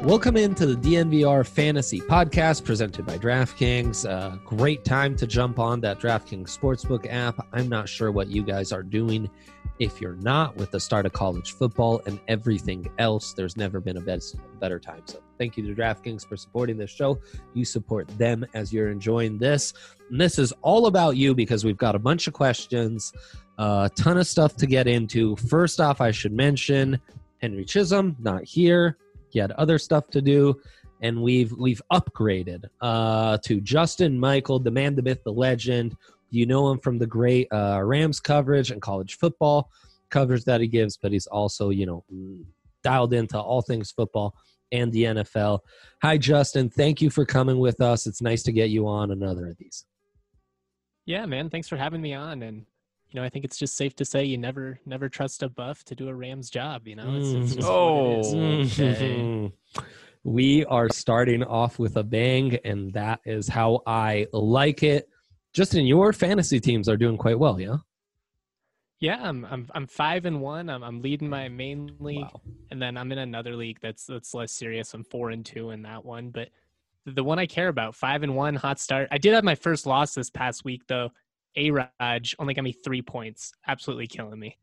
Welcome into the DNVR Fantasy Podcast presented by DraftKings. Great time to jump on that DraftKings Sportsbook app. I'm not sure what you guys are doing if you're not with the start of college football and everything else. There's never been a better time. So thank you to DraftKings for supporting this show. You support them as you're enjoying this. And this is all about you because we've got a bunch of questions, a ton of stuff to get into. First off, I should mention Henry Chisholm, not here. He had other stuff to do, and we've upgraded to Justin Michael, the man, the myth, the legend. You know him from the great Rams coverage and college football coverage that he gives, but he's also, dialed into all things football and the NFL. Hi, Justin. Thank you for coming with us. It's nice to get you on another of these. Yeah, man. Thanks for having me on. And, I think it's just safe to say you never trust a buff to do a Rams job. It's just what it is. Okay. We are starting off with a bang, and that is how I like it. Justin, your fantasy teams are doing quite well, yeah? Yeah, I'm 5-1. I'm leading my main league, Wow. And then I'm in another league that's less serious. I'm 4-2 in that one, but the one I care about, 5-1, hot start. I did have my first loss this past week though. A-Raj only got me 3 points, absolutely killing me.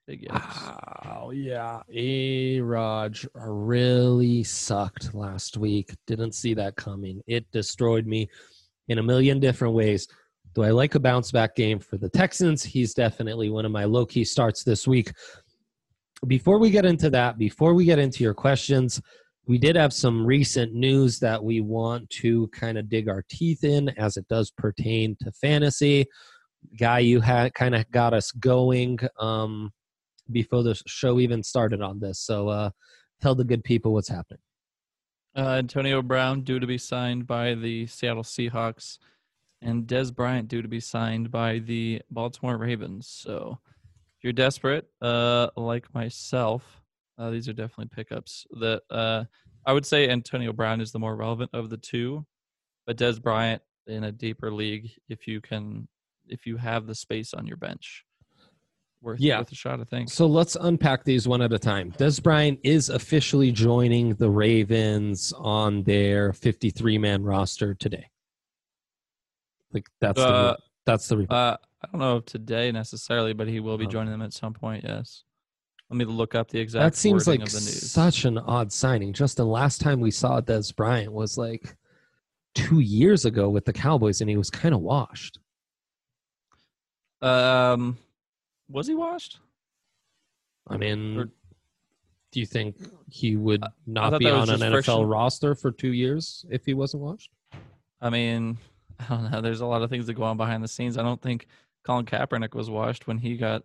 Wow, yeah. A-Raj really sucked last week. Didn't see that coming. It destroyed me in a million different ways. Do I like a bounce back game for the Texans? He's definitely one of my low-key starts this week. Before we get into that, before we get into your questions, we did have some recent news that we want to kind of dig our teeth in as it does pertain to fantasy. Guy, you had kind of got us going before the show even started on this. So tell the good people what's happening. Antonio Brown due to be signed by the Seattle Seahawks, and Dez Bryant due to be signed by the Baltimore Ravens. So if you're desperate, like myself, these are definitely pickups. That I would say Antonio Brown is the more relevant of the two, but Dez Bryant in a deeper league, if you have the space on your bench, worth a shot, I think. So let's unpack these one at a time. Dez Bryant is officially joining the Ravens on their 53-man roster today. Like that's the report. I don't know if today necessarily, but he will be joining them at some point. Yes. Let me look up the exact. That seems like of the news. Such an odd signing. Just the last time we saw Dez Bryant was like 2 years ago with the Cowboys, and he was kind of washed. Was he washed? I mean, do you think he would not be on an NFL roster for 2 years if he wasn't washed? I mean, I don't know. There's a lot of things that go on behind the scenes. I don't think Colin Kaepernick was washed when he got,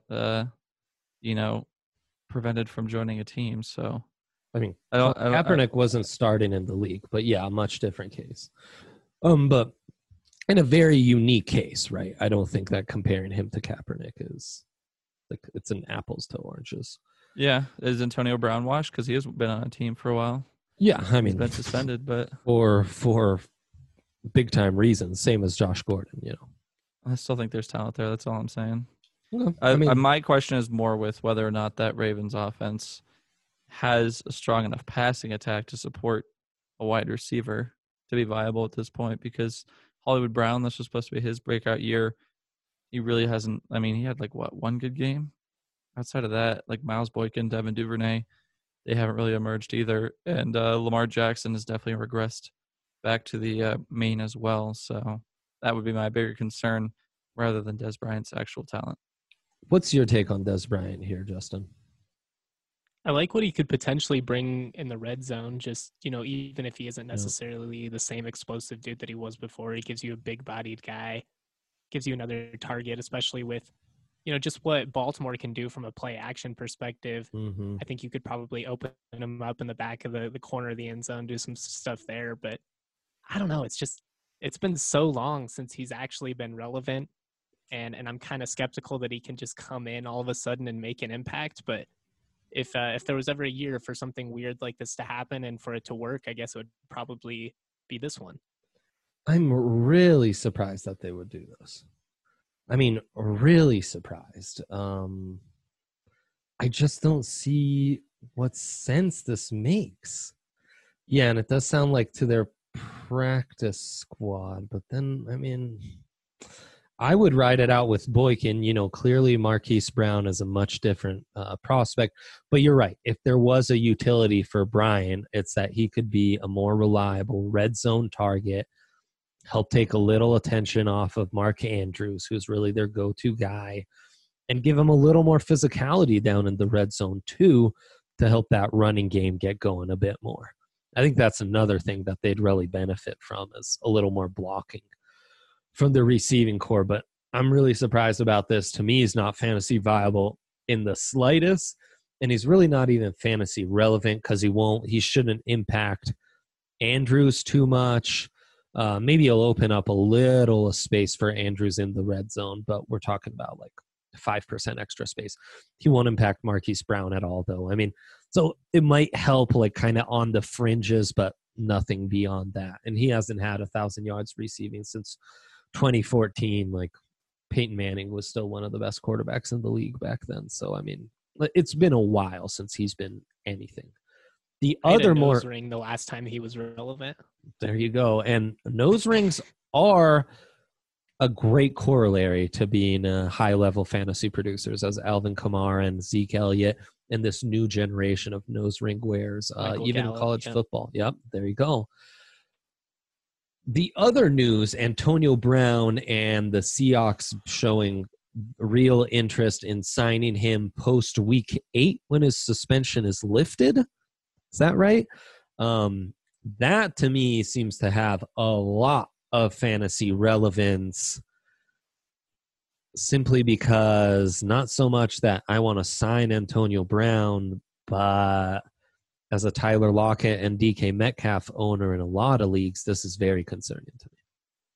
prevented from joining a team. So, I mean, Kaepernick wasn't starting in the league, but yeah, a much different case. But in a very unique case, right? I don't think that comparing him to Kaepernick is like it's an apples to oranges. Yeah, is Antonio Brown washed because he has been on a team for a while? Yeah, I mean, he's been suspended, but for big time reasons, same as Josh Gordon. I still think there's talent there. That's all I'm saying. Well, my question is more with whether or not that Ravens offense has a strong enough passing attack to support a wide receiver to be viable at this point, because Hollywood Brown, this was supposed to be his breakout year. He really hasn't. I mean, he had one good game. Outside of that, like Miles Boykin, Devin Duvernay, they haven't really emerged either. And Lamar Jackson has definitely regressed back to the main as well. So that would be my bigger concern rather than Dez Bryant's actual talent. What's your take on Dez Bryant here, Justin? I like what he could potentially bring in the red zone. Just, even if he isn't necessarily the same explosive dude that he was before, he gives you a big-bodied guy, gives you another target, especially with, just what Baltimore can do from a play-action perspective. Mm-hmm. I think you could probably open him up in the back of the corner of the end zone, do some stuff there. But I don't know. It's been so long since he's actually been relevant. And I'm kind of skeptical that he can just come in all of a sudden and make an impact. But if there was ever a year for something weird like this to happen and for it to work, I guess it would probably be this one. I'm really surprised that they would do this. I mean, really surprised. I just don't see what sense this makes. Yeah, and it does sound like to their practice squad, but then, I mean, I would ride it out with Boykin. Clearly Marquise Brown is a much different prospect, but you're right. If there was a utility for Brian, it's that he could be a more reliable red zone target, help take a little attention off of Mark Andrews, who's really their go-to guy, and give him a little more physicality down in the red zone too, to help that running game get going a bit more. I think that's another thing that they'd really benefit from, is a little more blocking from the receiving core. But I'm really surprised about this. To me, he's not fantasy viable in the slightest, and he's really not even fantasy relevant because he shouldn't impact Andrews too much. Maybe he'll open up a little space for Andrews in the red zone, but we're talking about like 5% extra space. He won't impact Marquise Brown at all, though. I mean, so it might help like kind of on the fringes, but nothing beyond that. And he hasn't had 1,000 yards receiving since 2014. Like, Peyton Manning was still one of the best quarterbacks in the league back then. So, I mean, it's been a while since he's been anything. The other nose ring the last time he was relevant. There you go. And nose rings are a great corollary to being high-level fantasy producers, as Alvin Kamara and Zeke Elliott and this new generation of nose ring wearers, even Gallup, in college football. Yep, there you go. The other news, Antonio Brown and the Seahawks showing real interest in signing him post-week 8 when his suspension is lifted. Is that right? That, to me, seems to have a lot of fantasy relevance, simply because not so much that I want to sign Antonio Brown, but as a Tyler Lockett and DK Metcalf owner in a lot of leagues, this is very concerning to me.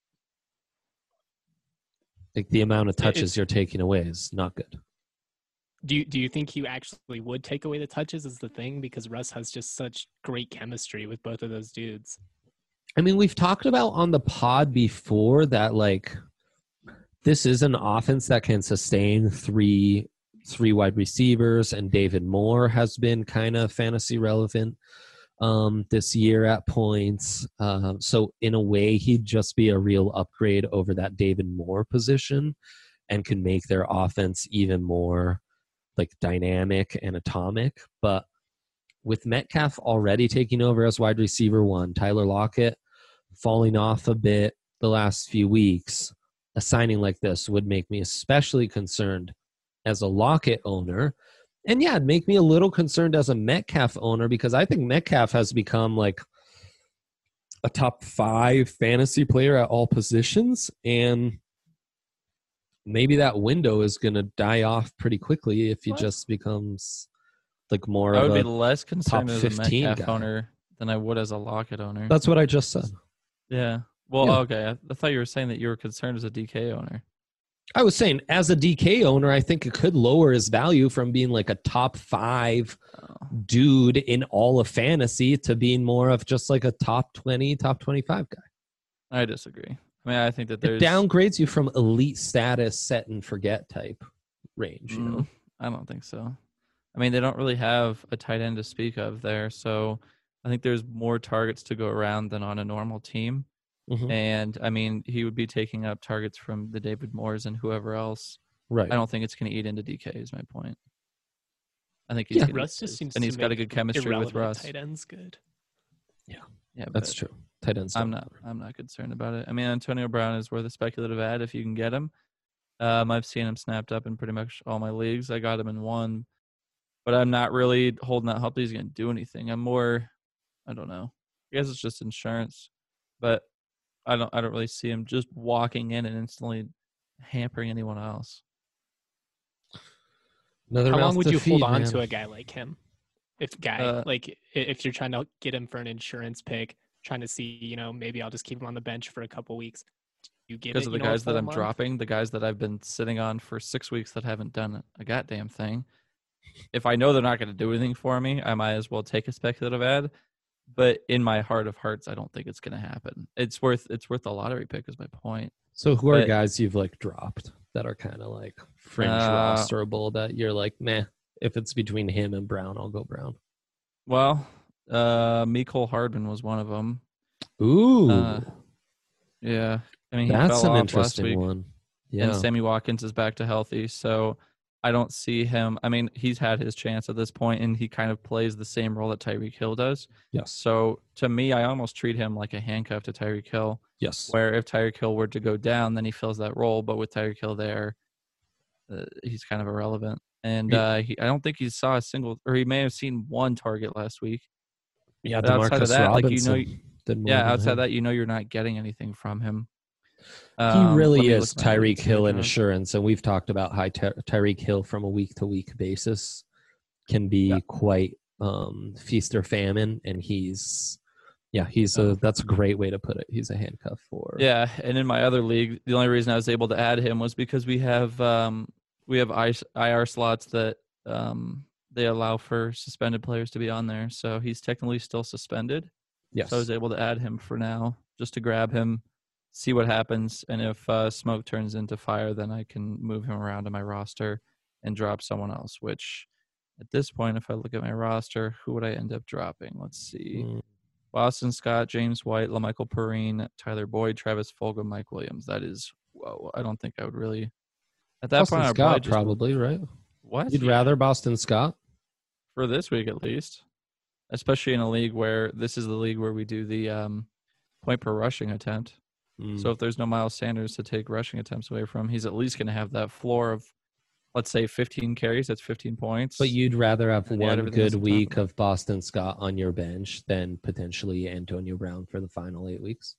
Like, the amount of touches you're taking away is not good. Do you think you actually would take away the touches is the thing? Because Russ has just such great chemistry with both of those dudes. I mean, we've talked about on the pod before that, like, this is an offense that can sustain three wide receivers, and David Moore has been kind of fantasy relevant this year at points. So in a way, he'd just be a real upgrade over that David Moore position and can make their offense even more like dynamic and atomic. But with Metcalf already taking over as wide receiver 1, Tyler Lockett falling off a bit the last few weeks, a signing like this would make me especially concerned as a Lockett owner. And yeah, it'd make me a little concerned as a Metcalf owner, because I think Metcalf has become like a top 5 fantasy player at all positions. And maybe that window is going to die off pretty quickly if he just becomes like more of a I would be less concerned as a Metcalf guy. owner than I would as a Lockett owner. That's what I just said. Yeah. Well, Yeah. Okay. I thought you were saying that you were concerned as a DK owner. I was saying, as a DK owner, I think it could lower his value from being like a top 5 dude in all of fantasy to being more of just like a top 20, top 25 guy. I disagree. I mean, I think that there's... It downgrades you from elite status, set and forget type range, you know? I don't think so. I mean, they don't really have a tight end to speak of there, so I think there's more targets to go around than on a normal team. Mm-hmm. And, I mean, he would be taking up targets from the David Moores and whoever else. Right. I don't think it's going to eat into DK is my point. I think he's Russ just seems and to he's got a good chemistry with Russ. Tight ends good. Yeah, that's true. Tight ends. I'm not concerned about it. I mean, Antonio Brown is worth a speculative ad if you can get him. I've seen him snapped up in pretty much all my leagues. I got him in one, but I'm not really holding out hope that he's going to do anything. I'm more, I don't know. I guess it's just insurance, but I don't really see him just walking in and instantly hampering anyone else. How long would you hold on to a guy like him? If you're trying to get him for an insurance pick, trying to see, maybe I'll just keep him on the bench for a couple weeks. You get because of the guys that I'm dropping, the guys that I've been sitting on for 6 weeks that haven't done a goddamn thing. If I know they're not going to do anything for me, I might as well take a speculative ad. But in my heart of hearts, I don't think it's going to happen. It's worth a lottery pick is my point. So who are guys you've like dropped that are kind of like fringe rosterable that you're like, meh, if it's between him and Brown, I'll go Brown? Well, Mecole Hardman was one of them. Ooh, Yeah. I mean, he that's fell an off last interesting week, one. Yeah. and Sammy Watkins is back to healthy, so I don't see him. I mean, he's had his chance at this point, and he kind of plays the same role that Tyreek Hill does. Yes. So to me, I almost treat him like a handcuff to Tyreek Hill, Yes. where if Tyreek Hill were to go down, then he fills that role. But with Tyreek Hill there, he's kind of irrelevant. And I don't think he saw a single, or he may have seen one target last week. Yeah, But outside of DeMarcus that, Robinson like did more yeah, than outside him. that, you're not getting anything from him. He Let really me is look at my Tyreek Hill in Jones. assurance, and we've talked about how Tyreek Hill from a week-to-week basis can be quite feast or famine, and he's that's a great way to put it. He's a handcuff for And in my other league, the only reason I was able to add him was because we have IR slots that they allow for suspended players to be on there, so he's technically still suspended. Yes. So I was able to add him for now, just to grab him, see what happens, and if smoke turns into fire, then I can move him around to my roster and drop someone else. Which, at this point, if I look at my roster, who would I end up dropping? Let's see: Boston Scott, James White, LaMichael Perrine, Tyler Boyd, Travis Fulgham, Mike Williams. That is, whoa! I don't think I would really. At that Boston point, I would Scott probably right? What? You'd rather Boston Scott for this week at least, especially in a league where this is the league where we do the point per rushing attempt. So if there's no Miles Sanders to take rushing attempts away from, he's at least going to have that floor of, let's say, 15 carries. That's 15 points. But you'd rather have And one good week about. of Boston Scott on your bench than potentially Antonio Brown for the final 8 weeks?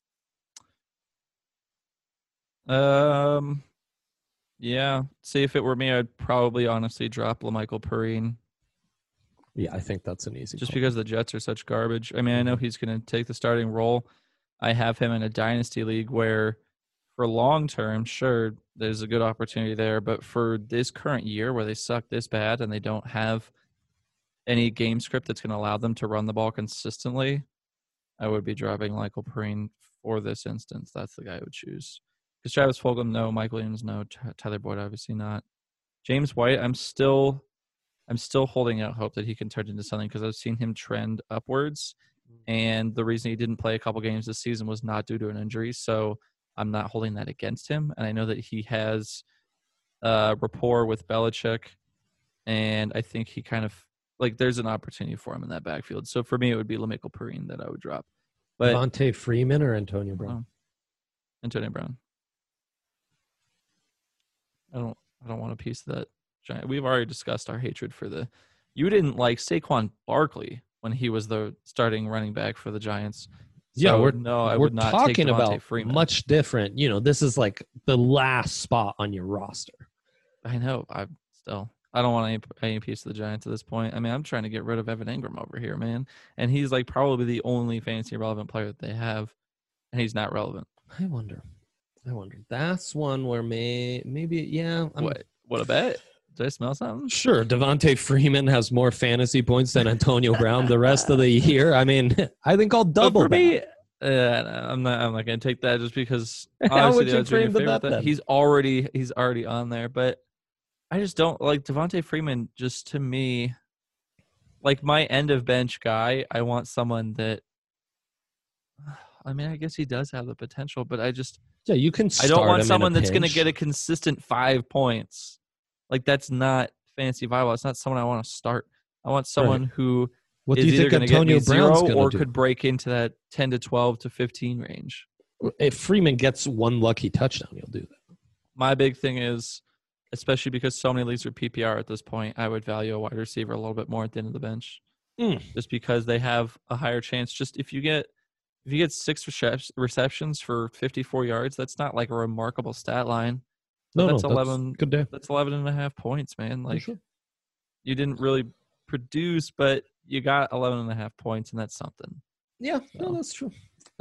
Yeah. See, if it were me, I'd probably honestly drop LaMichael Perrine. Yeah, I think that's an easy Just call. because the Jets are such garbage. I mean, I know he's going to take the starting role. I have him in a dynasty league where for long term, sure, there's a good opportunity there. But for this current year where they suck this bad and they don't have any game script that's going to allow them to run the ball consistently, I would be dropping Michael Perrine for this instance. That's the guy I would choose. Because Travis Fulgham, no. Mike Williams, no. Tyler Boyd, obviously not. James White, I'm still holding out hope that he can turn into something because I've seen him trend upwards. And the reason he didn't play a couple games this season was not due to an injury. So I'm not holding that against him. And I know that he has rapport with Belichick. And I think he kind of, like, there's an opportunity for him in that backfield. So for me, it would be LaMichael Perrine that I would drop. But Devontae Freeman or Antonio Brown? Antonio Brown. I don't want a piece of that giant. We've already discussed our hatred for the. You didn't like Saquon Barkley when he was the starting running back for the Giants. So, I would not talking take Devontae about Freeman. Much different. This is like the last spot on your roster. I know. I don't want any piece of the Giants at this point. I mean, I'm trying to get rid of Evan Ingram over here, man, and he's like probably the only fantasy relevant player that they have, and he's not relevant. I wonder. That's one where maybe yeah. What a bet. Did I smell something? Sure, Devontae Freeman has more fantasy points than Antonio Brown the rest of the year. I mean, I think I'll double for me. that. I'm not going to take that just because How would obviously you frame the bet then? he's already on there, but I just don't like Devontae Freeman. Just to me, like my end of bench guy, I want someone that. I mean, I guess he does have the potential, but you can. I don't want someone that's going to get a consistent 5 points. Like that's not fantasy viable. It's not someone I want to start. I want someone who what is do you either think going to get me Brown's 0 or do? could break into that 10 to 12 to 15 range. If Freeman gets one lucky touchdown, he'll do that. My big thing is, especially because so many leagues are PPR at this point, I would value a wide receiver a little bit more at the end of the bench, just because they have a higher chance. Just if you get 6 receptions for 54 yards, that's not like a remarkable stat line. No, that's 11. Good day. That's 11.5 points, man. Like sure. You didn't really produce, but you got 11.5 points, and that's something. Yeah, no, that's true.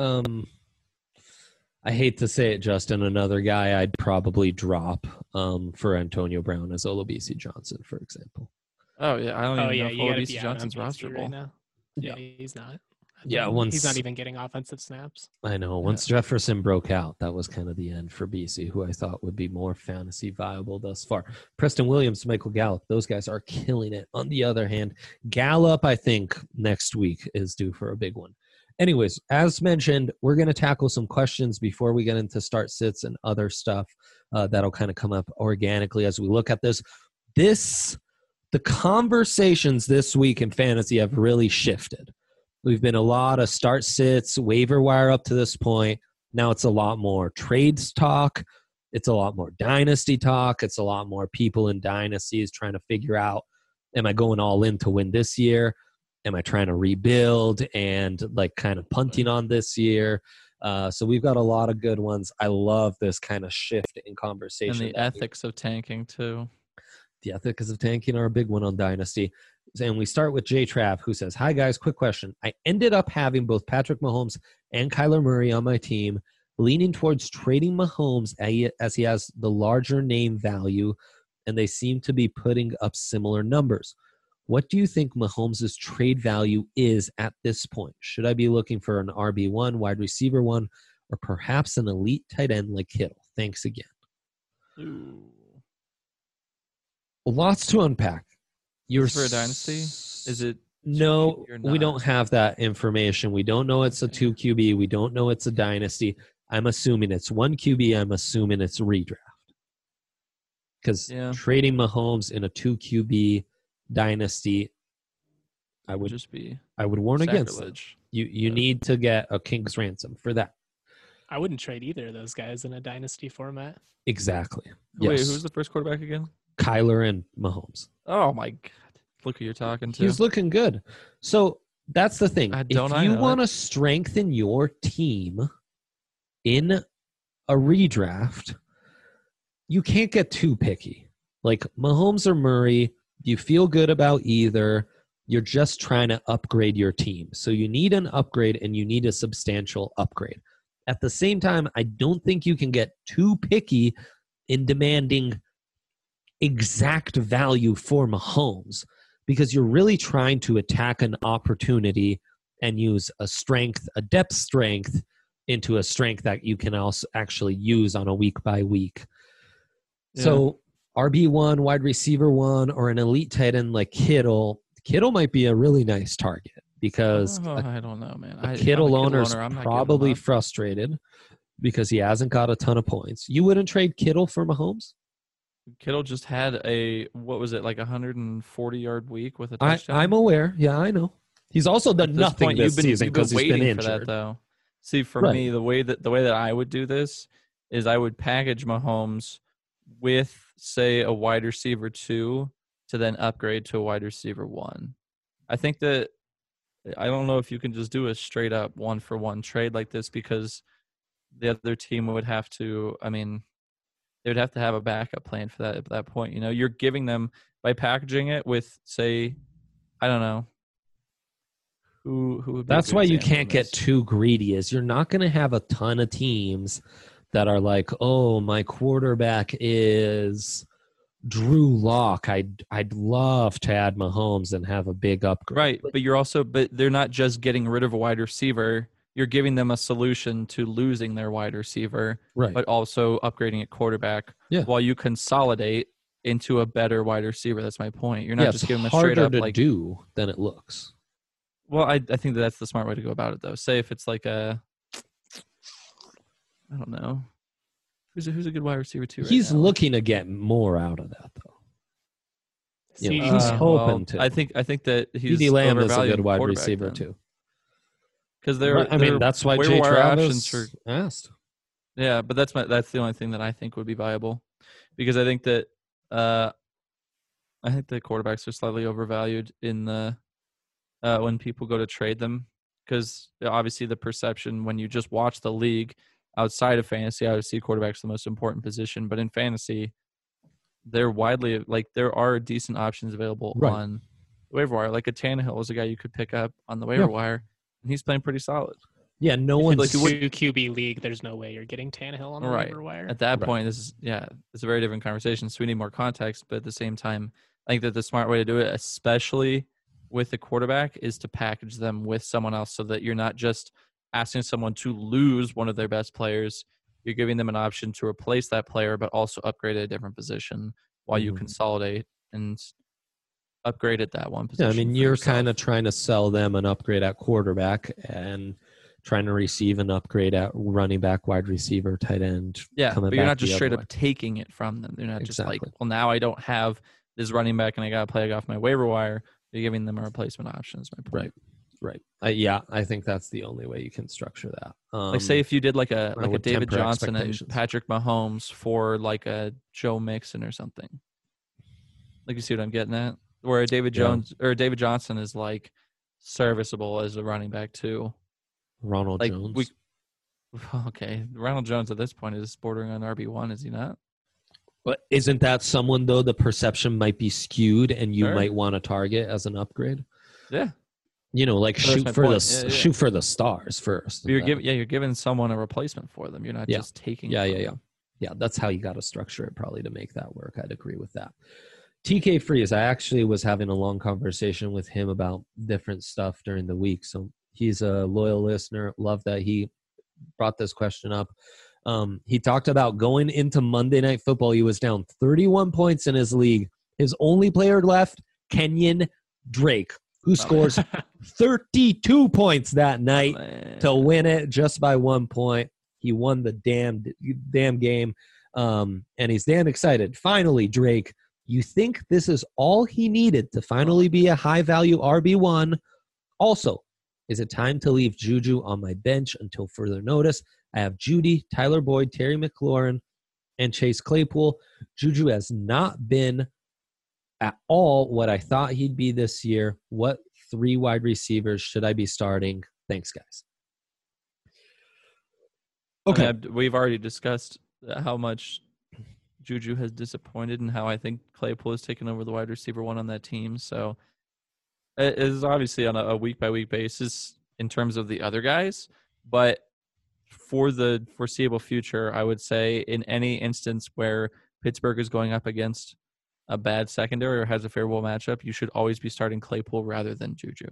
I hate to say it, Justin. Another guy I'd probably drop for Antonio Brown is Olabisi Johnson, for example. Oh yeah, I don't even know if you Olabisi Johnson's rosterable right now. Yeah, he's not. Yeah, He's not even getting offensive snaps. I know. Once Jefferson broke out, that was kind of the end for BC, who I thought would be more fantasy viable thus far. Preston Williams, Michael Gallup, those guys are killing it. On the other hand, Gallup, I think, next week is due for a big one. Anyways, as mentioned, we're going to tackle some questions before we get into start sits and other stuff that'll kind of come up organically as we look at this. The conversations this week in fantasy have really shifted. We've been a lot of start sits, waiver wire up to this point. Now it's a lot more trades talk. It's a lot more dynasty talk. It's a lot more people in dynasties trying to figure out, am I going all in to win this year? Am I trying to rebuild and like kind of punting on this year? So we've got a lot of good ones. I love this kind of shift in conversation. And the ethics of tanking too. The ethics of tanking are a big one on Dynasty. And we start with Jay Trav, who says, hi, guys, quick question. I ended up having both Patrick Mahomes and Kyler Murray on my team, leaning towards trading Mahomes as he has the larger name value, and they seem to be putting up similar numbers. What do you think Mahomes' trade value is at this point? Should I be looking for an RB1, wide receiver one, or perhaps an elite tight end like Kittle? Thanks again. Ooh. Lots to unpack. For a dynasty? Is it? No, we don't have that information. We don't know it's a 2 QB. We don't know it's a dynasty. I'm assuming it's 1 QB. I'm assuming it's redraft. Because trading Mahomes in a 2 QB dynasty, I would warn against it. You need to get a king's ransom for that. I wouldn't trade either of those guys in a dynasty format. Exactly. Wait, who's the first quarterback again? Kyler and Mahomes. Oh my God. Look who you're talking to. He's looking good. So that's the thing. If you want to strengthen your team in a redraft, you can't get too picky. Like Mahomes or Murray, you feel good about either. You're just trying to upgrade your team. So you need an upgrade and you need a substantial upgrade. At the same time, I don't think you can get too picky in demanding exact value for Mahomes, because you're really trying to attack an opportunity and use a depth strength into a strength that you can also actually use on a week by week. Yeah. So RB1, wide receiver one, or an elite tight end like Kittle might be a really nice target because I don't know, man. A Kittle owner's probably frustrated because he hasn't got a ton of points. You wouldn't trade Kittle for Mahomes? Kittle just had a 140-yard week with a touchdown. I'm aware. Yeah, I know. He's also done nothing this season because he's been injured. For that, though. See, for me, the way that I would do this is I would package Mahomes with, say, a wide receiver 2 to then upgrade to a wide receiver 1. I think that I don't know if you can just do a straight up 1-for-1 trade like this because the other team would have to. I mean, they would have to have a backup plan for that at that point. You know, you're giving them by packaging it with, say, I don't know. Who would be That's why you can't get too greedy. Is you're not going to have a ton of teams that are like, oh, my quarterback is Drew Lock. I'd love to add Mahomes and have a big upgrade. Right, but they're not just getting rid of a wide receiver. You're giving them a solution to losing their wide receiver, right, but also upgrading at quarterback while you consolidate into a better wide receiver. That's my point. You're not just giving them a straight up like do than it looks. Well, I think that's the smart way to go about it, though. Say if it's like I don't know, who's a good wide receiver too. He's looking to get more out of that, though. He's hoping to. I think that he's CeeDee Lamb is a good wide receiver too. Because that's why Jay Travis asked. Yeah, but that's the only thing that I think would be viable, because I think that the quarterbacks are slightly overvalued in the when people go to trade them, because obviously the perception when you just watch the league outside of fantasy, I would see quarterbacks the most important position, but in fantasy, they're widely there are decent options available on the waiver wire. Like a Tannehill is a guy you could pick up on the waiver wire. And he's playing pretty solid. Yeah, no one's like 2 QB league. There's no way you're getting Tannehill on the waiver wire. At that point, it's a very different conversation. So we need more context. But at the same time, I think that the smart way to do it, especially with the quarterback is to package them with someone else so that you're not just asking someone to lose one of their best players. You're giving them an option to replace that player, but also upgrade at a different position while you consolidate and upgrade at that one position. Yeah, I mean, you're kind of trying to sell them an upgrade at quarterback and trying to receive an upgrade at running back, wide receiver, tight end. Yeah, but you're not just straight up taking it from them. They're not just like, well, now I don't have this running back and I got to play off my waiver wire. You're giving them a replacement option is my point. Right. Yeah, I think that's the only way you can structure that. Like, say if you did like a David Johnson and Patrick Mahomes for like a Joe Mixon or something. Like, you see what I'm getting at? Where David Johnson is like serviceable as a running back too. Ronald Jones. Ronald Jones at this point is bordering on RB1, is he not? But isn't that someone, though, the perception might be skewed and you might want to target as an upgrade? Yeah. You know, like shoot for the stars first. But you're giving someone a replacement for them. You're not just taking Yeah, that's how you got to structure it probably to make that work. I'd agree with that. TK Freeze, I actually was having a long conversation with him about different stuff during the week. So he's a loyal listener. Love that he brought this question up. He talked about going into Monday Night Football. He was down 31 points in his league. His only player left, Kenyon Drake, who scores 32 points that night to win it just by 1 point. He won the damn game, and he's damn excited. Finally, Drake, you think this is all he needed to finally be a high-value RB1? Also, is it time to leave Juju on my bench until further notice? I have Judy, Tyler Boyd, Terry McLaurin, and Chase Claypool. Juju has not been at all what I thought he'd be this year. What 3 wide receivers should I be starting? Thanks, guys. Okay. We've already discussed how much Juju has disappointed and how I think Claypool has taken over the wide receiver one on that team. So it is obviously on a week-by-week basis in terms of the other guys. But for the foreseeable future, I would say in any instance where Pittsburgh is going up against a bad secondary or has a favorable matchup, you should always be starting Claypool rather than Juju.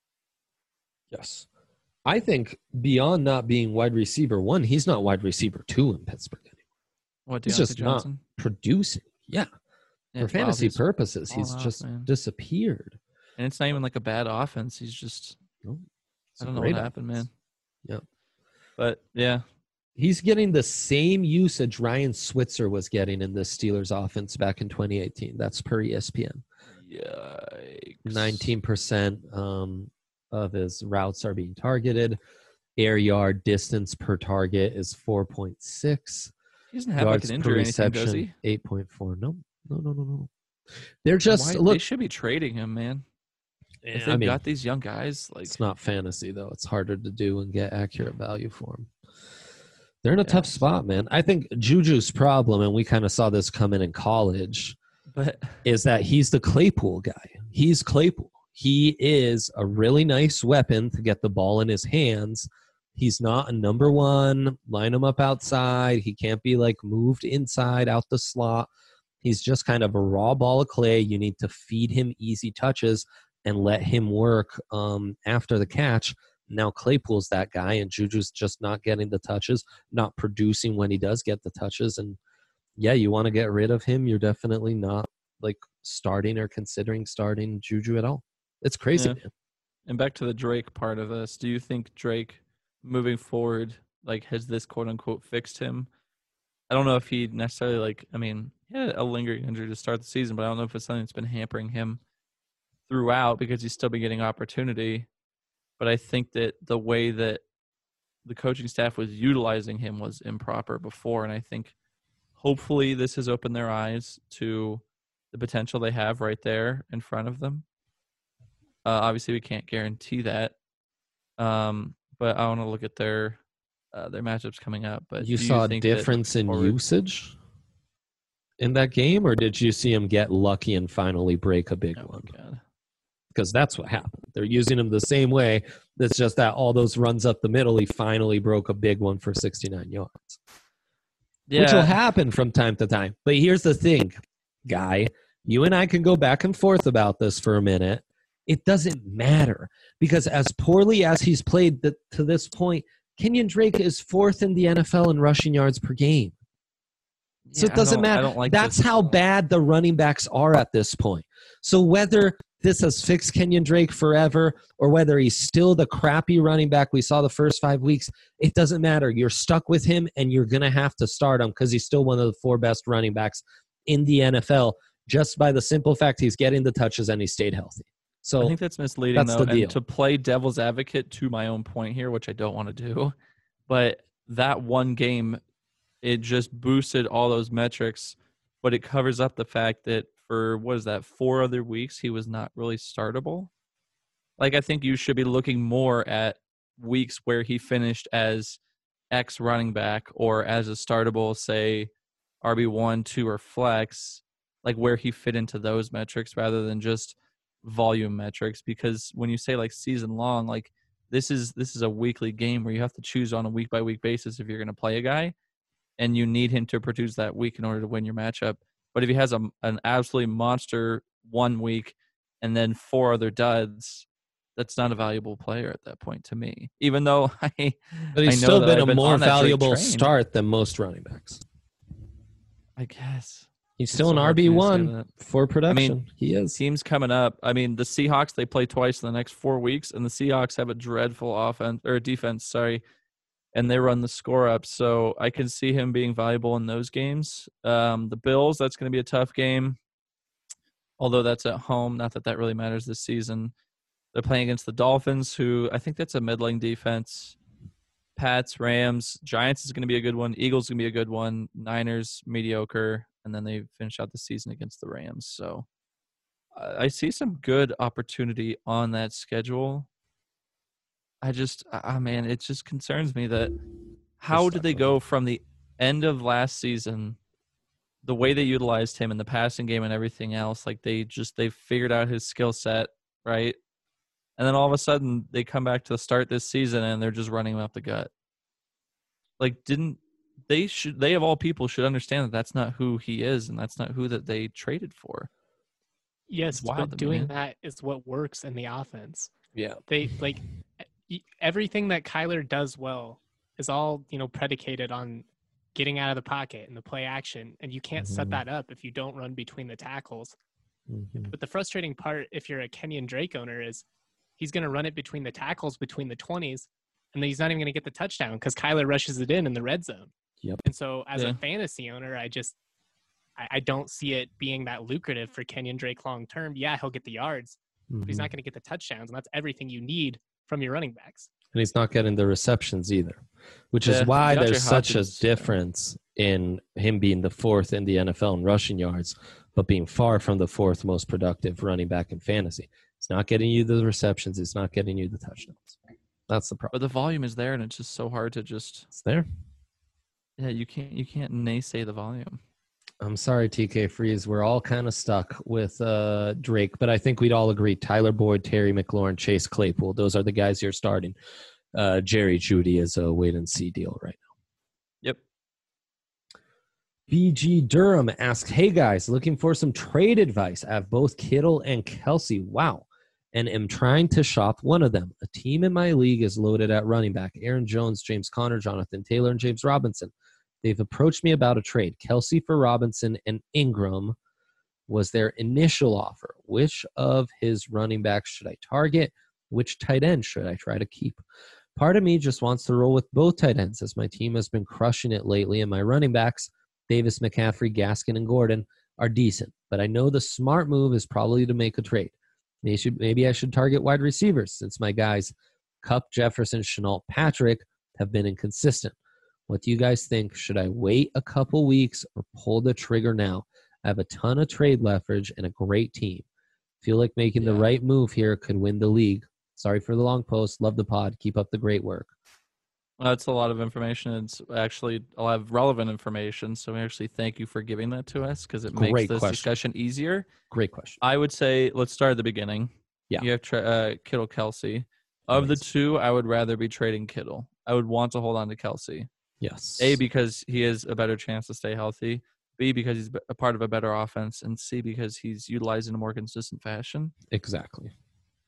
Yes. I think beyond not being wide receiver 1, he's not wide receiver 2 in Pittsburgh anymore. What, he's just Johnson? Not producing. Yeah. For fantasy purposes, he's just disappeared. And it's not even like a bad offense. He's just, I don't know what happened, man. Yeah. But, yeah. He's getting the same usage Ryan Switzer was getting in the Steelers offense back in 2018. That's per ESPN. Yikes. 19% of his routes are being targeted. Air yard distance per target is 4.6. He doesn't have like an injury or anything, does he? 8.4. No. They're just look. They should be trading him, man. If they've got these young guys, like it's not fantasy though. It's harder to do and get accurate value for them. They're in a tough spot, man. I think Juju's problem, and we kind of saw this coming in college, is that he's the Claypool guy. He's Claypool. He is a really nice weapon to get the ball in his hands. He's not a number one, line him up outside. He can't be like moved inside out the slot. He's just kind of a raw ball of clay. You need to feed him easy touches and let him work after the catch. Now Claypool's that guy, and Juju's just not getting the touches, not producing when he does get the touches. And yeah, you want to get rid of him. You're definitely not like starting or considering starting Juju at all. It's crazy, man. And back to the Drake part of this, do you think Drake moving forward, like, has this quote unquote fixed him? I don't know if he necessarily he had a lingering injury to start the season, but I don't know if it's something that's been hampering him throughout because he's still been getting opportunity. But I think that the way that the coaching staff was utilizing him was improper before. And I think hopefully this has opened their eyes to the potential they have right there in front of them. Obviously, we can't guarantee that. But I want to look at their matchups coming up. But you saw a difference in usage in that game, or did you see him get lucky and finally break a big one? God. Because that's what happened. They're using him the same way. It's just that all those runs up the middle, he finally broke a big one for 69 yards. Yeah. Which will happen from time to time. But here's the thing, Guy. You and I can go back and forth about this for a minute. it doesn't matter because as poorly as he's played to this point, Kenyon Drake is fourth in the NFL in rushing yards per game. So it doesn't matter. I don't like That's this. how bad the running backs are at this point. So whether this has fixed Kenyon Drake forever or whether he's still the crappy running back we saw the first 5 weeks, it doesn't matter. You're stuck with him, and you're going to have to start him because he's still one of the 4 best running backs in the NFL just by the simple fact he's getting the touches and he stayed healthy. So I think that's misleading, that's though. the deal. And to play devil's advocate to my own point here, which I don't want to do, but that one game, it just boosted all those metrics, but it covers up the fact that for, 4 other weeks, he was not really startable. Like, I think you should be looking more at weeks where he finished as X running back or as a startable, say, RB1, 2, or flex, like where he fit into those metrics rather than just volume metrics. Because when you say like season long, like this is a weekly game where you have to choose on a week by week basis if you're going to play a guy, and you need him to produce that week in order to win your matchup. But if he has an absolutely monster 1 week and then 4 other duds, that's not a valuable player at that point to me. Even though but he's I know still that been I've a more on that Drake valuable train. start than most running backs. I guess He's still so an hard for me to say RB1 that. for production. I mean, he is. teams coming up. I mean, the Seahawks, they play twice in the next 4 weeks, and the Seahawks have a dreadful defense, and they run the score up. So I can see him being valuable in those games. The Bills, that's going to be a tough game, although that's at home. Not that that really matters this season. They're playing against the Dolphins, who I think that's a middling defense. Pats, Rams, Giants is going to be a good one. Eagles is going to be a good one. Niners, mediocre. And then they finish out the season against the Rams. So I see some good opportunity on that schedule. Man, it just concerns me that how did they go from the end of last season, the way they utilized him in the passing game and everything else, like they figured out his skill set, right? And then all of a sudden they come back to start this season and they're just running him up the gut. Like, they of all people should understand that that's not who he is and that's not who that they traded for. Yes, but doing that is what works in the offense. Yeah. They everything that Kyler does well is all, predicated on getting out of the pocket and the play action. And you can't set that up if you don't run between the tackles. Mm-hmm. But the frustrating part, if you're a Kenyon Drake owner, is he's going to run it between the tackles, between the 20s, and then he's not even going to get the touchdown because Kyler rushes it in the red zone. Yep. And so as a fantasy owner, I don't see it being that lucrative for Kenyon Drake long term. Yeah, he'll get the yards, but he's not going to get the touchdowns, and that's everything you need from your running backs. And he's not getting the receptions either, which is why there's such a difference in him being the 4th in the NFL in rushing yards, but being far from the 4th most productive running back in fantasy. It's not getting you the receptions. It's not getting you the touchdowns. That's the problem. But the volume is there, and it's just so hard to just. It's there. Yeah, you can't naysay the volume. I'm sorry, TK Freeze. We're all kind of stuck with Drake, but I think we'd all agree Tyler Boyd, Terry McLaurin, Chase Claypool. Those are the guys you're starting. Jerry Jeudy is a wait-and-see deal right now. Yep. BG Durham asks, hey, guys, looking for some trade advice. I have both Kittle and Kelsey. Wow. And am trying to shop one of them. A team in my league is loaded at running back. Aaron Jones, James Conner, Jonathan Taylor, and James Robinson. They've approached me about a trade. Kelsey for Robinson and Ingram was their initial offer. Which of his running backs should I target? Which tight end should I try to keep? Part of me just wants to roll with both tight ends as my team has been crushing it lately, and my running backs, Davis, McCaffrey, Gaskin, and Gordon, are decent. But I know the smart move is probably to make a trade. Maybe I should target wide receivers since my guys, Kupp, Jefferson, Shenault, Patrick, have been inconsistent. What do you guys think? Should I wait a couple weeks or pull the trigger now? I have a ton of trade leverage and a great team. Feel like making the right move here could win the league. Sorry for the long post. Love the pod. Keep up the great work. That's a lot of information. It's actually a lot of relevant information. So we actually thank you for giving that to us because it makes this discussion easier. Great question. I would say let's start at the beginning. Yeah. You have Kittle, Kelsey. Of the two, I would rather be trading Kittle. I would want to hold on to Kelsey. Yes. A, because he has a better chance to stay healthy. B, because he's a part of a better offense. And C, because he's utilized in a more consistent fashion. Exactly.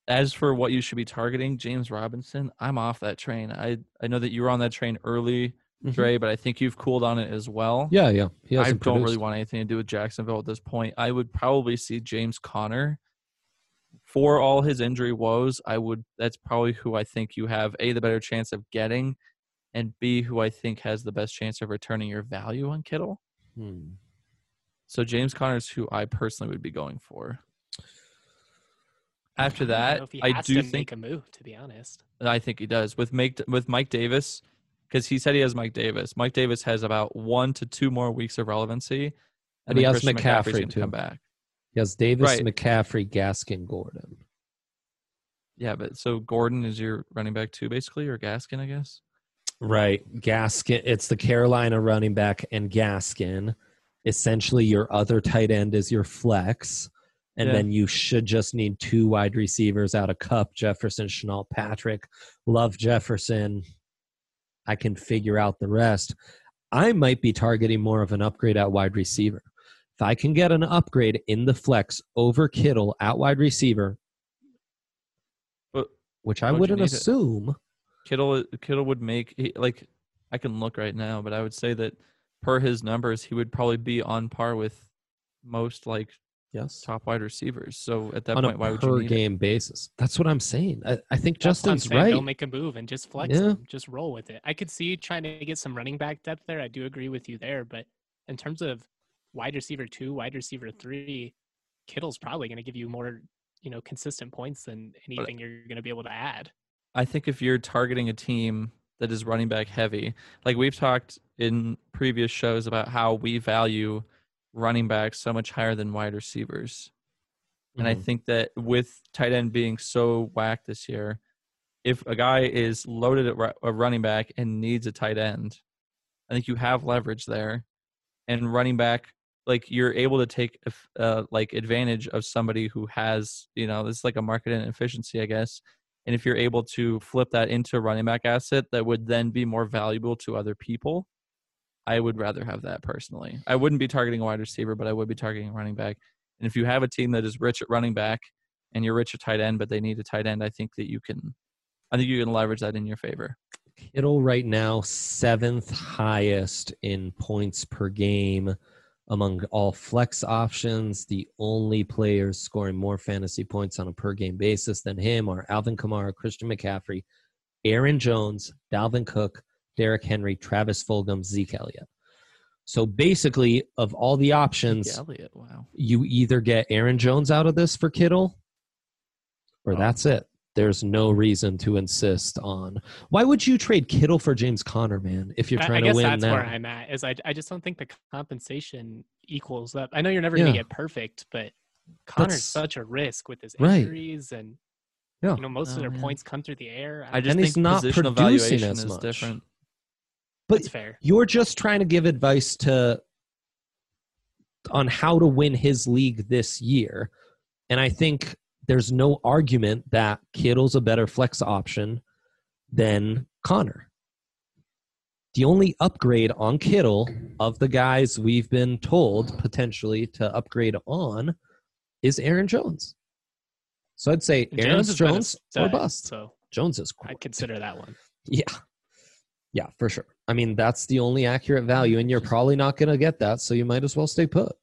as for what you should be targeting, James Robinson, I'm off that train. I know that you were on that train early, Dre, but I think you've cooled on it as well. Yeah. He I hasn't don't really produced. want anything to do with Jacksonville at this point. I would probably see James Conner. For all his injury woes, that's probably who I think you have A, the better chance of getting, and B, who I think has the best chance of returning your value on Kittle. So James Conner is who I personally would be going for. After that, I do think make a move. To be honest, I think he does with Mike Davis, because he said he has Mike Davis. Mike Davis has about 1 to 2 more weeks of relevancy, And he has Christian McCaffrey's McCaffrey gonna too. come back. He has Davis, Right. McCaffrey, Gaskin, Gordon. Yeah, but so Gordon is your running back too, basically, or Gaskin, I guess. Right. Gaskin. It's the Carolina running back and Gaskin. Essentially, your other tight end is your flex. And then you should just need 2 wide receivers out of Kupp, Jefferson, Shenault, Patrick. Love Jefferson. I can figure out the rest. I might be targeting more of an upgrade at wide receiver. If I can get an upgrade in the flex over Kittle at wide receiver, which I wouldn't assume. Kittle would make, I can look right now, but I would say that per his numbers, he would probably be on par with most top wide receivers. So at that point, why would you need on a per game basis? That's what I'm saying. I think Justin's right. Don't make a move and just flex them. Just roll with it. I could see trying to get some running back depth there. I do agree with you there, but in terms of wide receiver 2, wide receiver 3, Kittle's probably going to give you more, consistent points than anything you're going to be able to add. I think if you're targeting a team that is running back heavy, like we've talked in previous shows about how we value running backs so much higher than wide receivers. And I think that with tight end being so whacked this year, if a guy is loaded at a running back and needs a tight end, I think you have leverage there. And running back, you're able to take advantage of somebody who has, this is like a market inefficiency, I guess. And if you're able to flip that into a running back asset that would then be more valuable to other people, I would rather have that personally. I wouldn't be targeting a wide receiver, but I would be targeting a running back. And if you have a team that is rich at running back and you're rich at tight end, but they need a tight end, I think you can leverage that in your favor. Kittle right now, 7th highest in points per game among all flex options. The only players scoring more fantasy points on a per game basis than him are Alvin Kamara, Christian McCaffrey, Aaron Jones, Dalvin Cook, Derrick Henry, Travis Fulgham, Zeke Elliott. So basically, of all the options, you either get Aaron Jones out of this for Kittle, or that's it. There's no reason to insist on. Why would you trade Kittle for James Conner, man, if you're trying to win now? I guess that's where I'm at. I just don't think the compensation equals that. I know you're never going to get perfect, but Connor's such a risk with his injuries and most of their points come through the air. I just think he's not producing as much. Different. But that's fair. You're just trying to give advice on how to win his league this year. And I think there's no argument that Kittle's a better flex option than Conner. The only upgrade on Kittle of the guys we've been told potentially to upgrade on is Aaron Jones. So I'd say Aaron Jones or bust. So Jones is cool. I'd consider that one. Yeah, for sure. I mean, that's the only accurate value, and you're probably not going to get that, so you might as well stay put.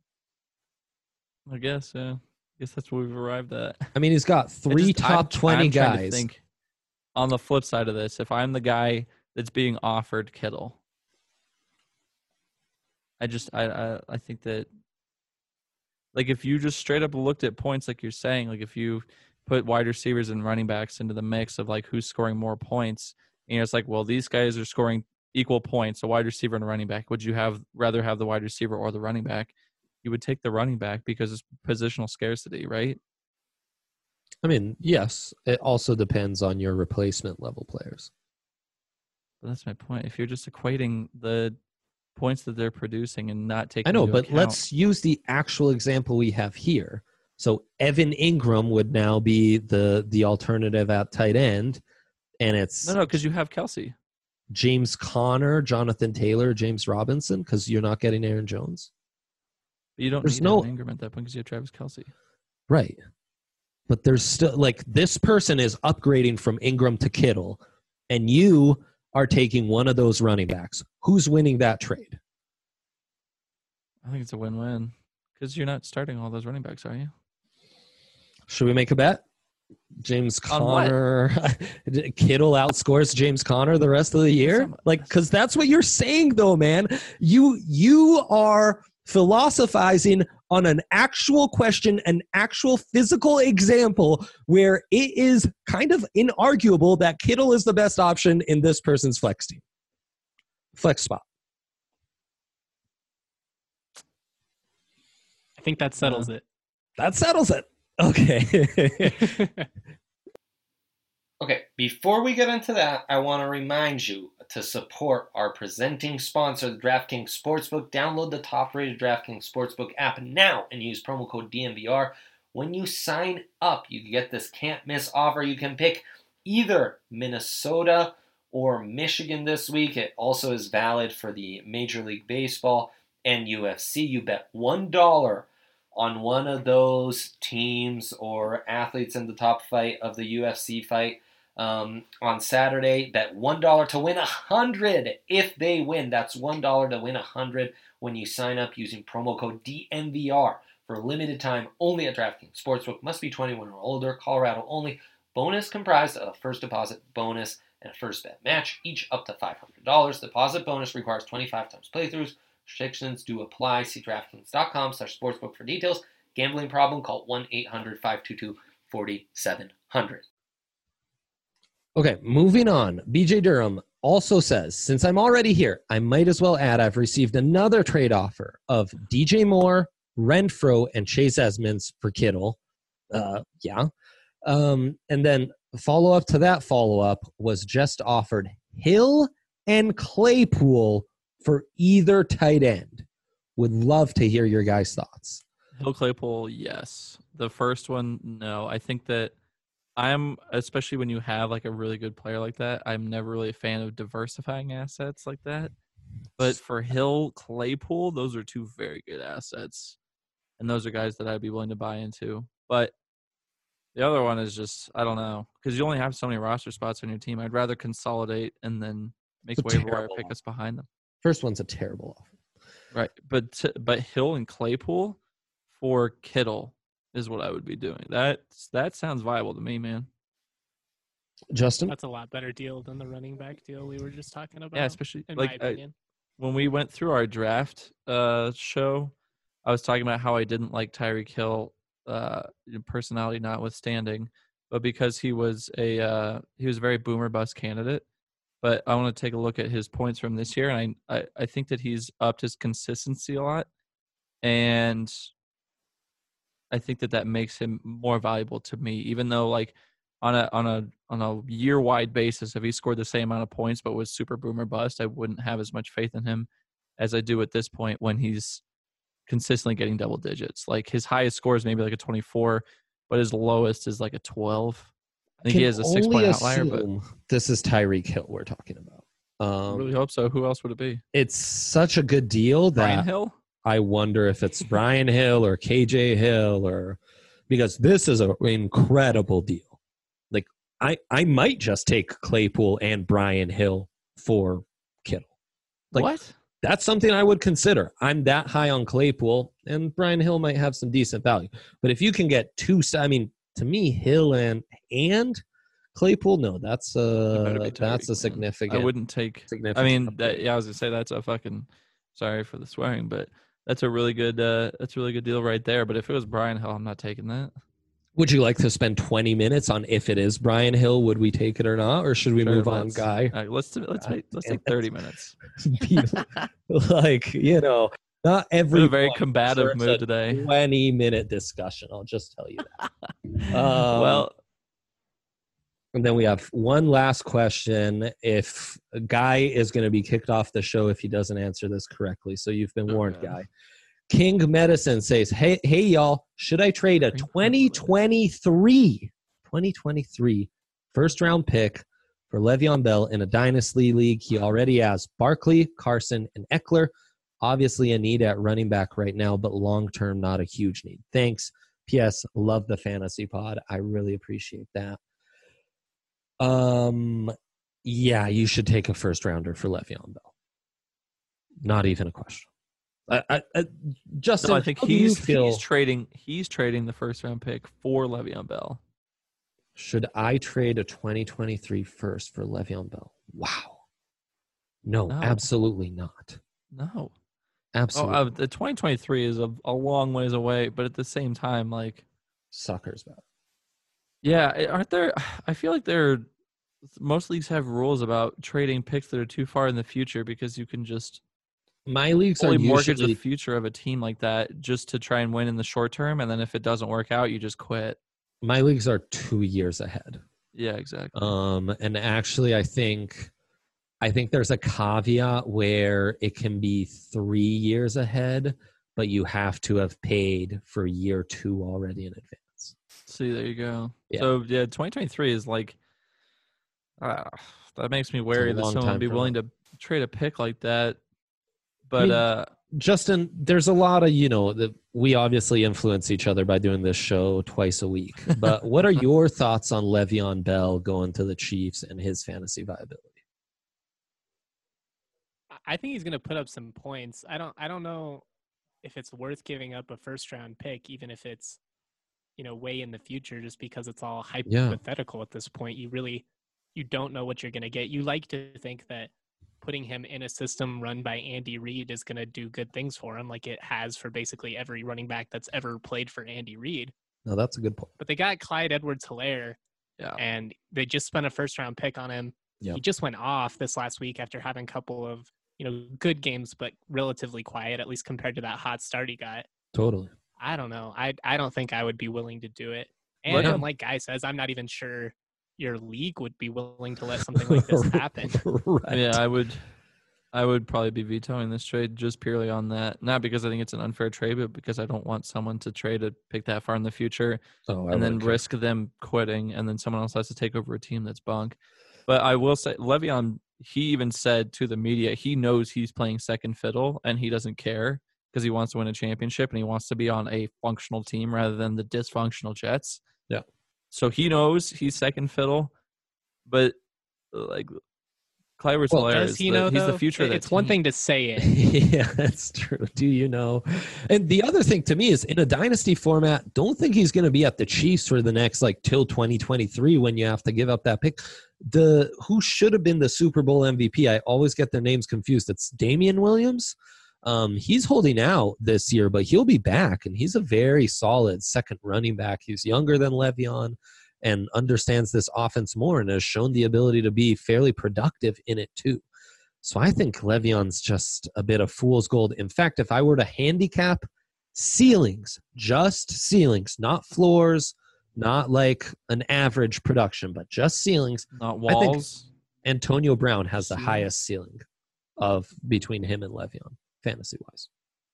I guess, yeah. I guess that's what we've arrived at. I mean, he's got 3 top 20 guys. To think, on the flip side of this, if I'm the guy that's being offered Kittle, I think that, if you just straight up looked at points like you're saying, if you put wide receivers and running backs into the mix of who's scoring more points, and it's well, these guys are scoring equal points, a wide receiver and a running back. Would you rather have the wide receiver or the running back? You would take the running back because it's positional scarcity, right? I mean, yes. It also depends on your replacement level players. But that's my point. If you're just equating the points that they're producing and not taking let's use the actual example we have here. So Evan Ingram would now be the alternative at tight end. And it's no, because you have Kelsey, James Conner, Jonathan Taylor, James Robinson, because you're not getting Aaron Jones. But you don't need Evan Ingram at that point because you have Travis Kelsey. Right. but there's still like this person is upgrading from Ingram to Kittle, and you are taking one of those running backs. Who's winning that trade? I think it's a win-win because you're not starting all those running backs, are you? Should we make a bet? James Conner, Kittle outscores James Conner the rest of the year? Like, because that's what you're saying, though, man. You are philosophizing on an actual question, an actual physical example where it is kind of inarguable that Kittle is the best option in this person's flex team. Flex spot. I think that settles it. That settles it. Okay. Okay, before we get into that, I want to remind you to support our presenting sponsor, the DraftKings Sportsbook. Download the top-rated DraftKings Sportsbook app now and use promo code DNVR. When you sign up, you get this can't-miss offer. You can pick either Minnesota or Michigan this week. It also is valid for the Major League Baseball and UFC. You bet $1 on one of those teams or athletes in the top fight of the UFC fight. On Saturday, bet $1 to win $100 if they win. That's $1 to win $100 when you sign up using promo code DNVR for a limited time only at DraftKings Sportsbook. Must be 21 or older. Colorado only. Bonus comprised of a first deposit bonus and a first bet match, each up to $500. Deposit bonus requires 25 times playthroughs. Restrictions do apply. See DraftKings.com/sportsbook for details. Gambling problem? Call 1-800-522-4700. Okay, moving on. BJ Durham also says, since I'm already here, I might as well add I've received another trade offer of DJ Moore, Renfro, and Chase Edmonds for Kittle. And then follow-up to that follow-up was just offered Hill and Claypool for either tight end. Would love to hear your guys' thoughts. Hill, Claypool, yes. The first one, no. I think that especially when you have like a really good player like that, I'm never really a fan of diversifying assets like that. But for Hill, Claypool, those are two very good assets. And those are guys that I'd be willing to buy into. But the other one is just, I don't know, because you only have so many roster spots on your team. I'd rather consolidate and then make waiver wire pickups behind them. First one's a terrible offer. Right. But Hill and Claypool for Kittle is what I would be doing. That sounds viable to me, man. Justin? That's a lot better deal than the running back deal we were just talking about. Yeah, especially in my opinion. When we went through our draft show, I was talking about how I didn't like Tyreek Hill, personality notwithstanding, but because he was a very boomer bust candidate. But I want to take a look at his points from this year, and I think that he's upped his consistency a lot, and I think that makes him more valuable to me. Even though, like on a year-wide basis, if he scored the same amount of points but was super boomer bust, I wouldn't have as much faith in him as I do at this point when he's consistently getting double digits. Like his highest score is maybe like a 24, but his lowest is like a 12. I think he has a 6-point outlier, but this is Tyreek Hill we're talking about. I really hope so. Who else would it be? It's such a good deal that Brian Hill? I wonder if it's Brian Hill or KJ Hill, or because this is an incredible deal. Like I might just take Claypool and Brian Hill for Kittle. Like, what? That's something I would consider. I'm that high on Claypool, and Brian Hill might have some decent value. But if you can get two, I mean, to me, Hill and Claypool, no, that's a significant. I wouldn't take. I mean, I was gonna say that's a fucking. Sorry for the swearing, but that's a really good. That's a really good deal right there. But if it was Brian Hill, I'm not taking that. Would you like to spend 20 minutes on if it is Brian Hill? Would we take it or not, or should we move on, Guy? Let's take 30 minutes. Like, not every. In a very combative mood today. 20-minute discussion. I'll just tell you that. Well, and then we have one last question. If a Guy is going to be kicked off the show if he doesn't answer this correctly, so you've been warned, Guy. King Medicine says, hey, y'all, should I trade a 2023 first-round pick for Le'Veon Bell in a Dynasty League? He already has Barkley, Carson, and Eckler. Obviously a need at running back right now, but long-term, not a huge need. Thanks. P.S. Love the fantasy pod. I really appreciate that. Yeah, you should take a first rounder for Le'Veon Bell. Not even a question. Justin, No, I think how do you he's feel? trading the first round pick for Le'Veon Bell. Should I trade a 2023 first for Le'Veon Bell? Wow. No, No. absolutely not. No. Absolutely. The 2023 is a long ways away, but at the same time, like, Suckers about it. yeah, aren't there? I feel like most leagues have rules about trading picks that are too far in the future because you can just My leagues are fully mortgage the usually future of a team like that just to try and win in the short term, and then if it doesn't work out, you just quit. 2 years ahead. Yeah, exactly. And actually, I think there's a caveat where it can be 3 years ahead, but you have to have paid for year 2 already in advance. See, there you go. Yeah. So, yeah, 2023 is like, that makes me wary that long someone time would be from willing now. to trade a pick like that. But, Justin, there's a lot of, that we obviously influence each other by doing this show twice a week. But what are your thoughts on Le'Veon Bell going to the Chiefs and his fantasy viability? I think he's going to put up some points. I don't know if it's worth giving up a first round pick, even if it's, way in the future, just because it's all hypothetical at this point. You don't know what you're going to get. You like to think that putting him in a system run by Andy Reid is going to do good things for him, like it has for basically every running back that's ever played for Andy Reid. No, that's a good point. But they got Clyde Edwards-Helaire, and they just spent a first-round pick on him. Yep. He just went off this last week after having a couple of good games, but relatively quiet, at least compared to that hot start he got. Totally. I don't know. I don't think I would be willing to do it. And like Guy says, I'm not even sure your league would be willing to let something like this happen. Right. Yeah, I would probably be vetoing this trade just purely on that. Not because I think it's an unfair trade, but because I don't want someone to trade a pick that far in the future and then risk them quitting, and then someone else has to take over a team that's bunk. But I will say, Le'Veon, he even said to the media, he knows he's playing second fiddle and he doesn't care because he wants to win a championship and he wants to be on a functional team rather than the dysfunctional Jets. Yeah. So he knows he's second fiddle, but like Clyde Edwards-Helaire does he know, he's though? the future of that It's one team. thing to say it. Yeah, that's true. Do you know? And the other thing to me is, in a dynasty format, don't think he's going to be at the Chiefs for the next till 2023 when you have to give up that pick. Who should have been the Super Bowl MVP? I always get their names confused. It's Damian Williams. He's holding out this year, but he'll be back, and he's a very solid second running back. He's younger than Le'Veon and understands this offense more and has shown the ability to be fairly productive in it too. So I think Le'Veon's just a bit of fool's gold. In fact, if I were to handicap ceilings, just ceilings, not floors, not like an average production, but just ceilings, Not walls. Antonio Brown has the Ceiling. highest ceiling of between him and Le'Veon, fantasy-wise.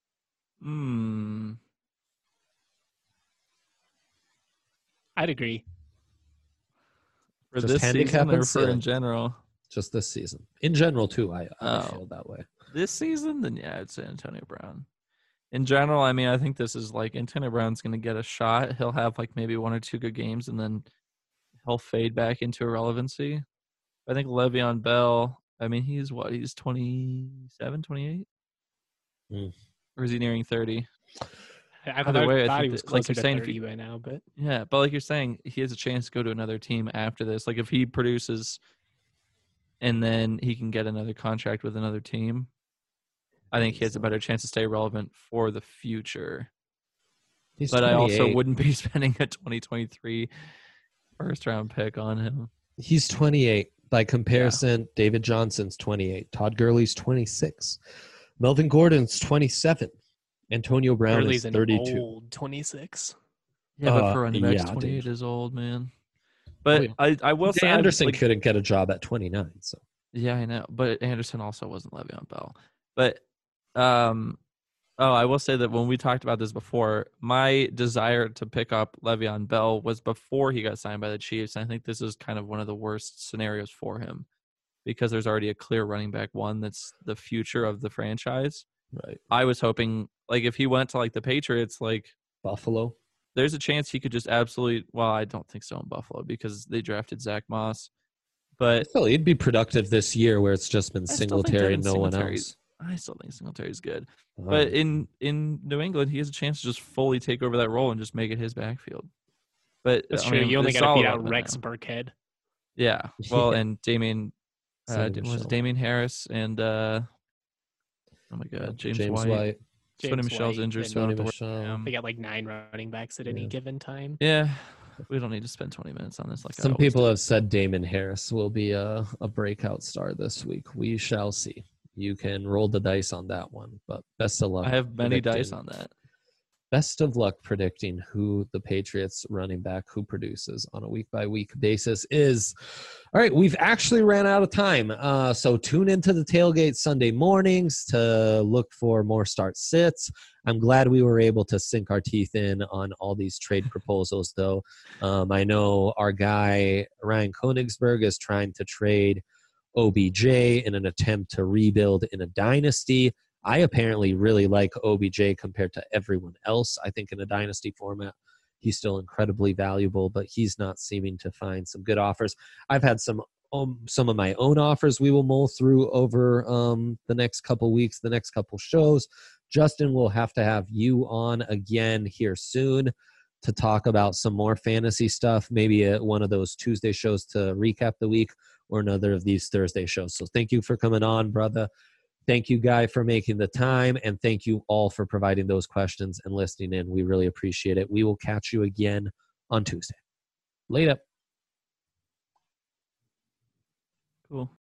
I'd agree. For Just this handicap season or and for in ceiling. general? Just this season. In general, too, I Oh. feel that way. This season, then yeah, I'd say Antonio Brown. In general, I mean, I think this is Antonio Brown's going to get a shot. He'll have maybe 1 or 2 good games, and then he'll fade back into irrelevancy. I think Le'Veon Bell, I mean, he's 27, 28? Or is he nearing 30? I Either way, I thought he think was that, like closer you're to saying, 30 by now, but Yeah, but like you're saying, he has a chance to go to another team after this. If he produces and then he can get another contract with another team, I think he has a better chance to stay relevant for the future. He's But 28. I also wouldn't be spending a 2023 first-round pick on him. He's 28. By comparison, David Johnson's 28. Todd Gurley's 26. Melvin Gordon's 27. Antonio Brown Gurley's is 32. an old 26. Yeah, but for running backs, yeah, 28 dude. is old, man. But I will say, Anderson couldn't get a job at 29. So yeah, I know. But Anderson also wasn't Le'Veon Bell. But I will say that when we talked about this before, my desire to pick up Le'Veon Bell was before he got signed by the Chiefs. I think this is kind of one of the worst scenarios for him because there's already a clear running back one that's the future of the franchise. right. I was hoping, if he went to the Patriots, Buffalo. there's a chance he could just absolutely. Well, I don't think so in Buffalo because they drafted Zach Moss, but Still, he'd be productive this year where it's just been I still think Singletary and Devin no one Singletary's- else. I still think Singletary's good. All But right. in New England, he has a chance to just fully take over that role and just make it his backfield. But That's I true. mean, You only it's got to all beat about out that Rex now. Burkhead. Yeah. Well, Yeah. and Damien, Sonny was Michel. it Damien Harris and oh my God, James White. Sonny James Michel's White, injured, and so I don't Sonny have to worry about Michel. him. They got like 9 running backs at any Yeah. given time. Yeah, we don't need to spend 20 minutes on this. Like I Some always people do. have said Damon Harris will be a breakout star this week. We shall see. You can roll the dice on that one, but best of luck. I have many dice predicting- on that. Best of luck predicting who the Patriots running back who produces on a week by week basis is. All right, we've actually ran out of time. So tune into the tailgate Sunday mornings to look for more start sits. I'm glad we were able to sink our teeth in on all these trade proposals, though. I know our guy Ryan Konigsberg is trying to trade OBJ in an attempt to rebuild in a dynasty. I apparently really like OBJ compared to everyone else. I think in a dynasty format, he's still incredibly valuable, but he's not seeming to find some good offers. I've had some of my own offers we will mull through over the next couple weeks, the next couple shows. Justin will have to have you on again here soon to talk about some more fantasy stuff, maybe one of those Tuesday shows to recap the week or another of these Thursday shows. So thank you for coming on, brother. Thank you, Guy, for making the time, and thank you all for providing those questions and listening in. We really appreciate it. We will catch you again on Tuesday. Later. Cool.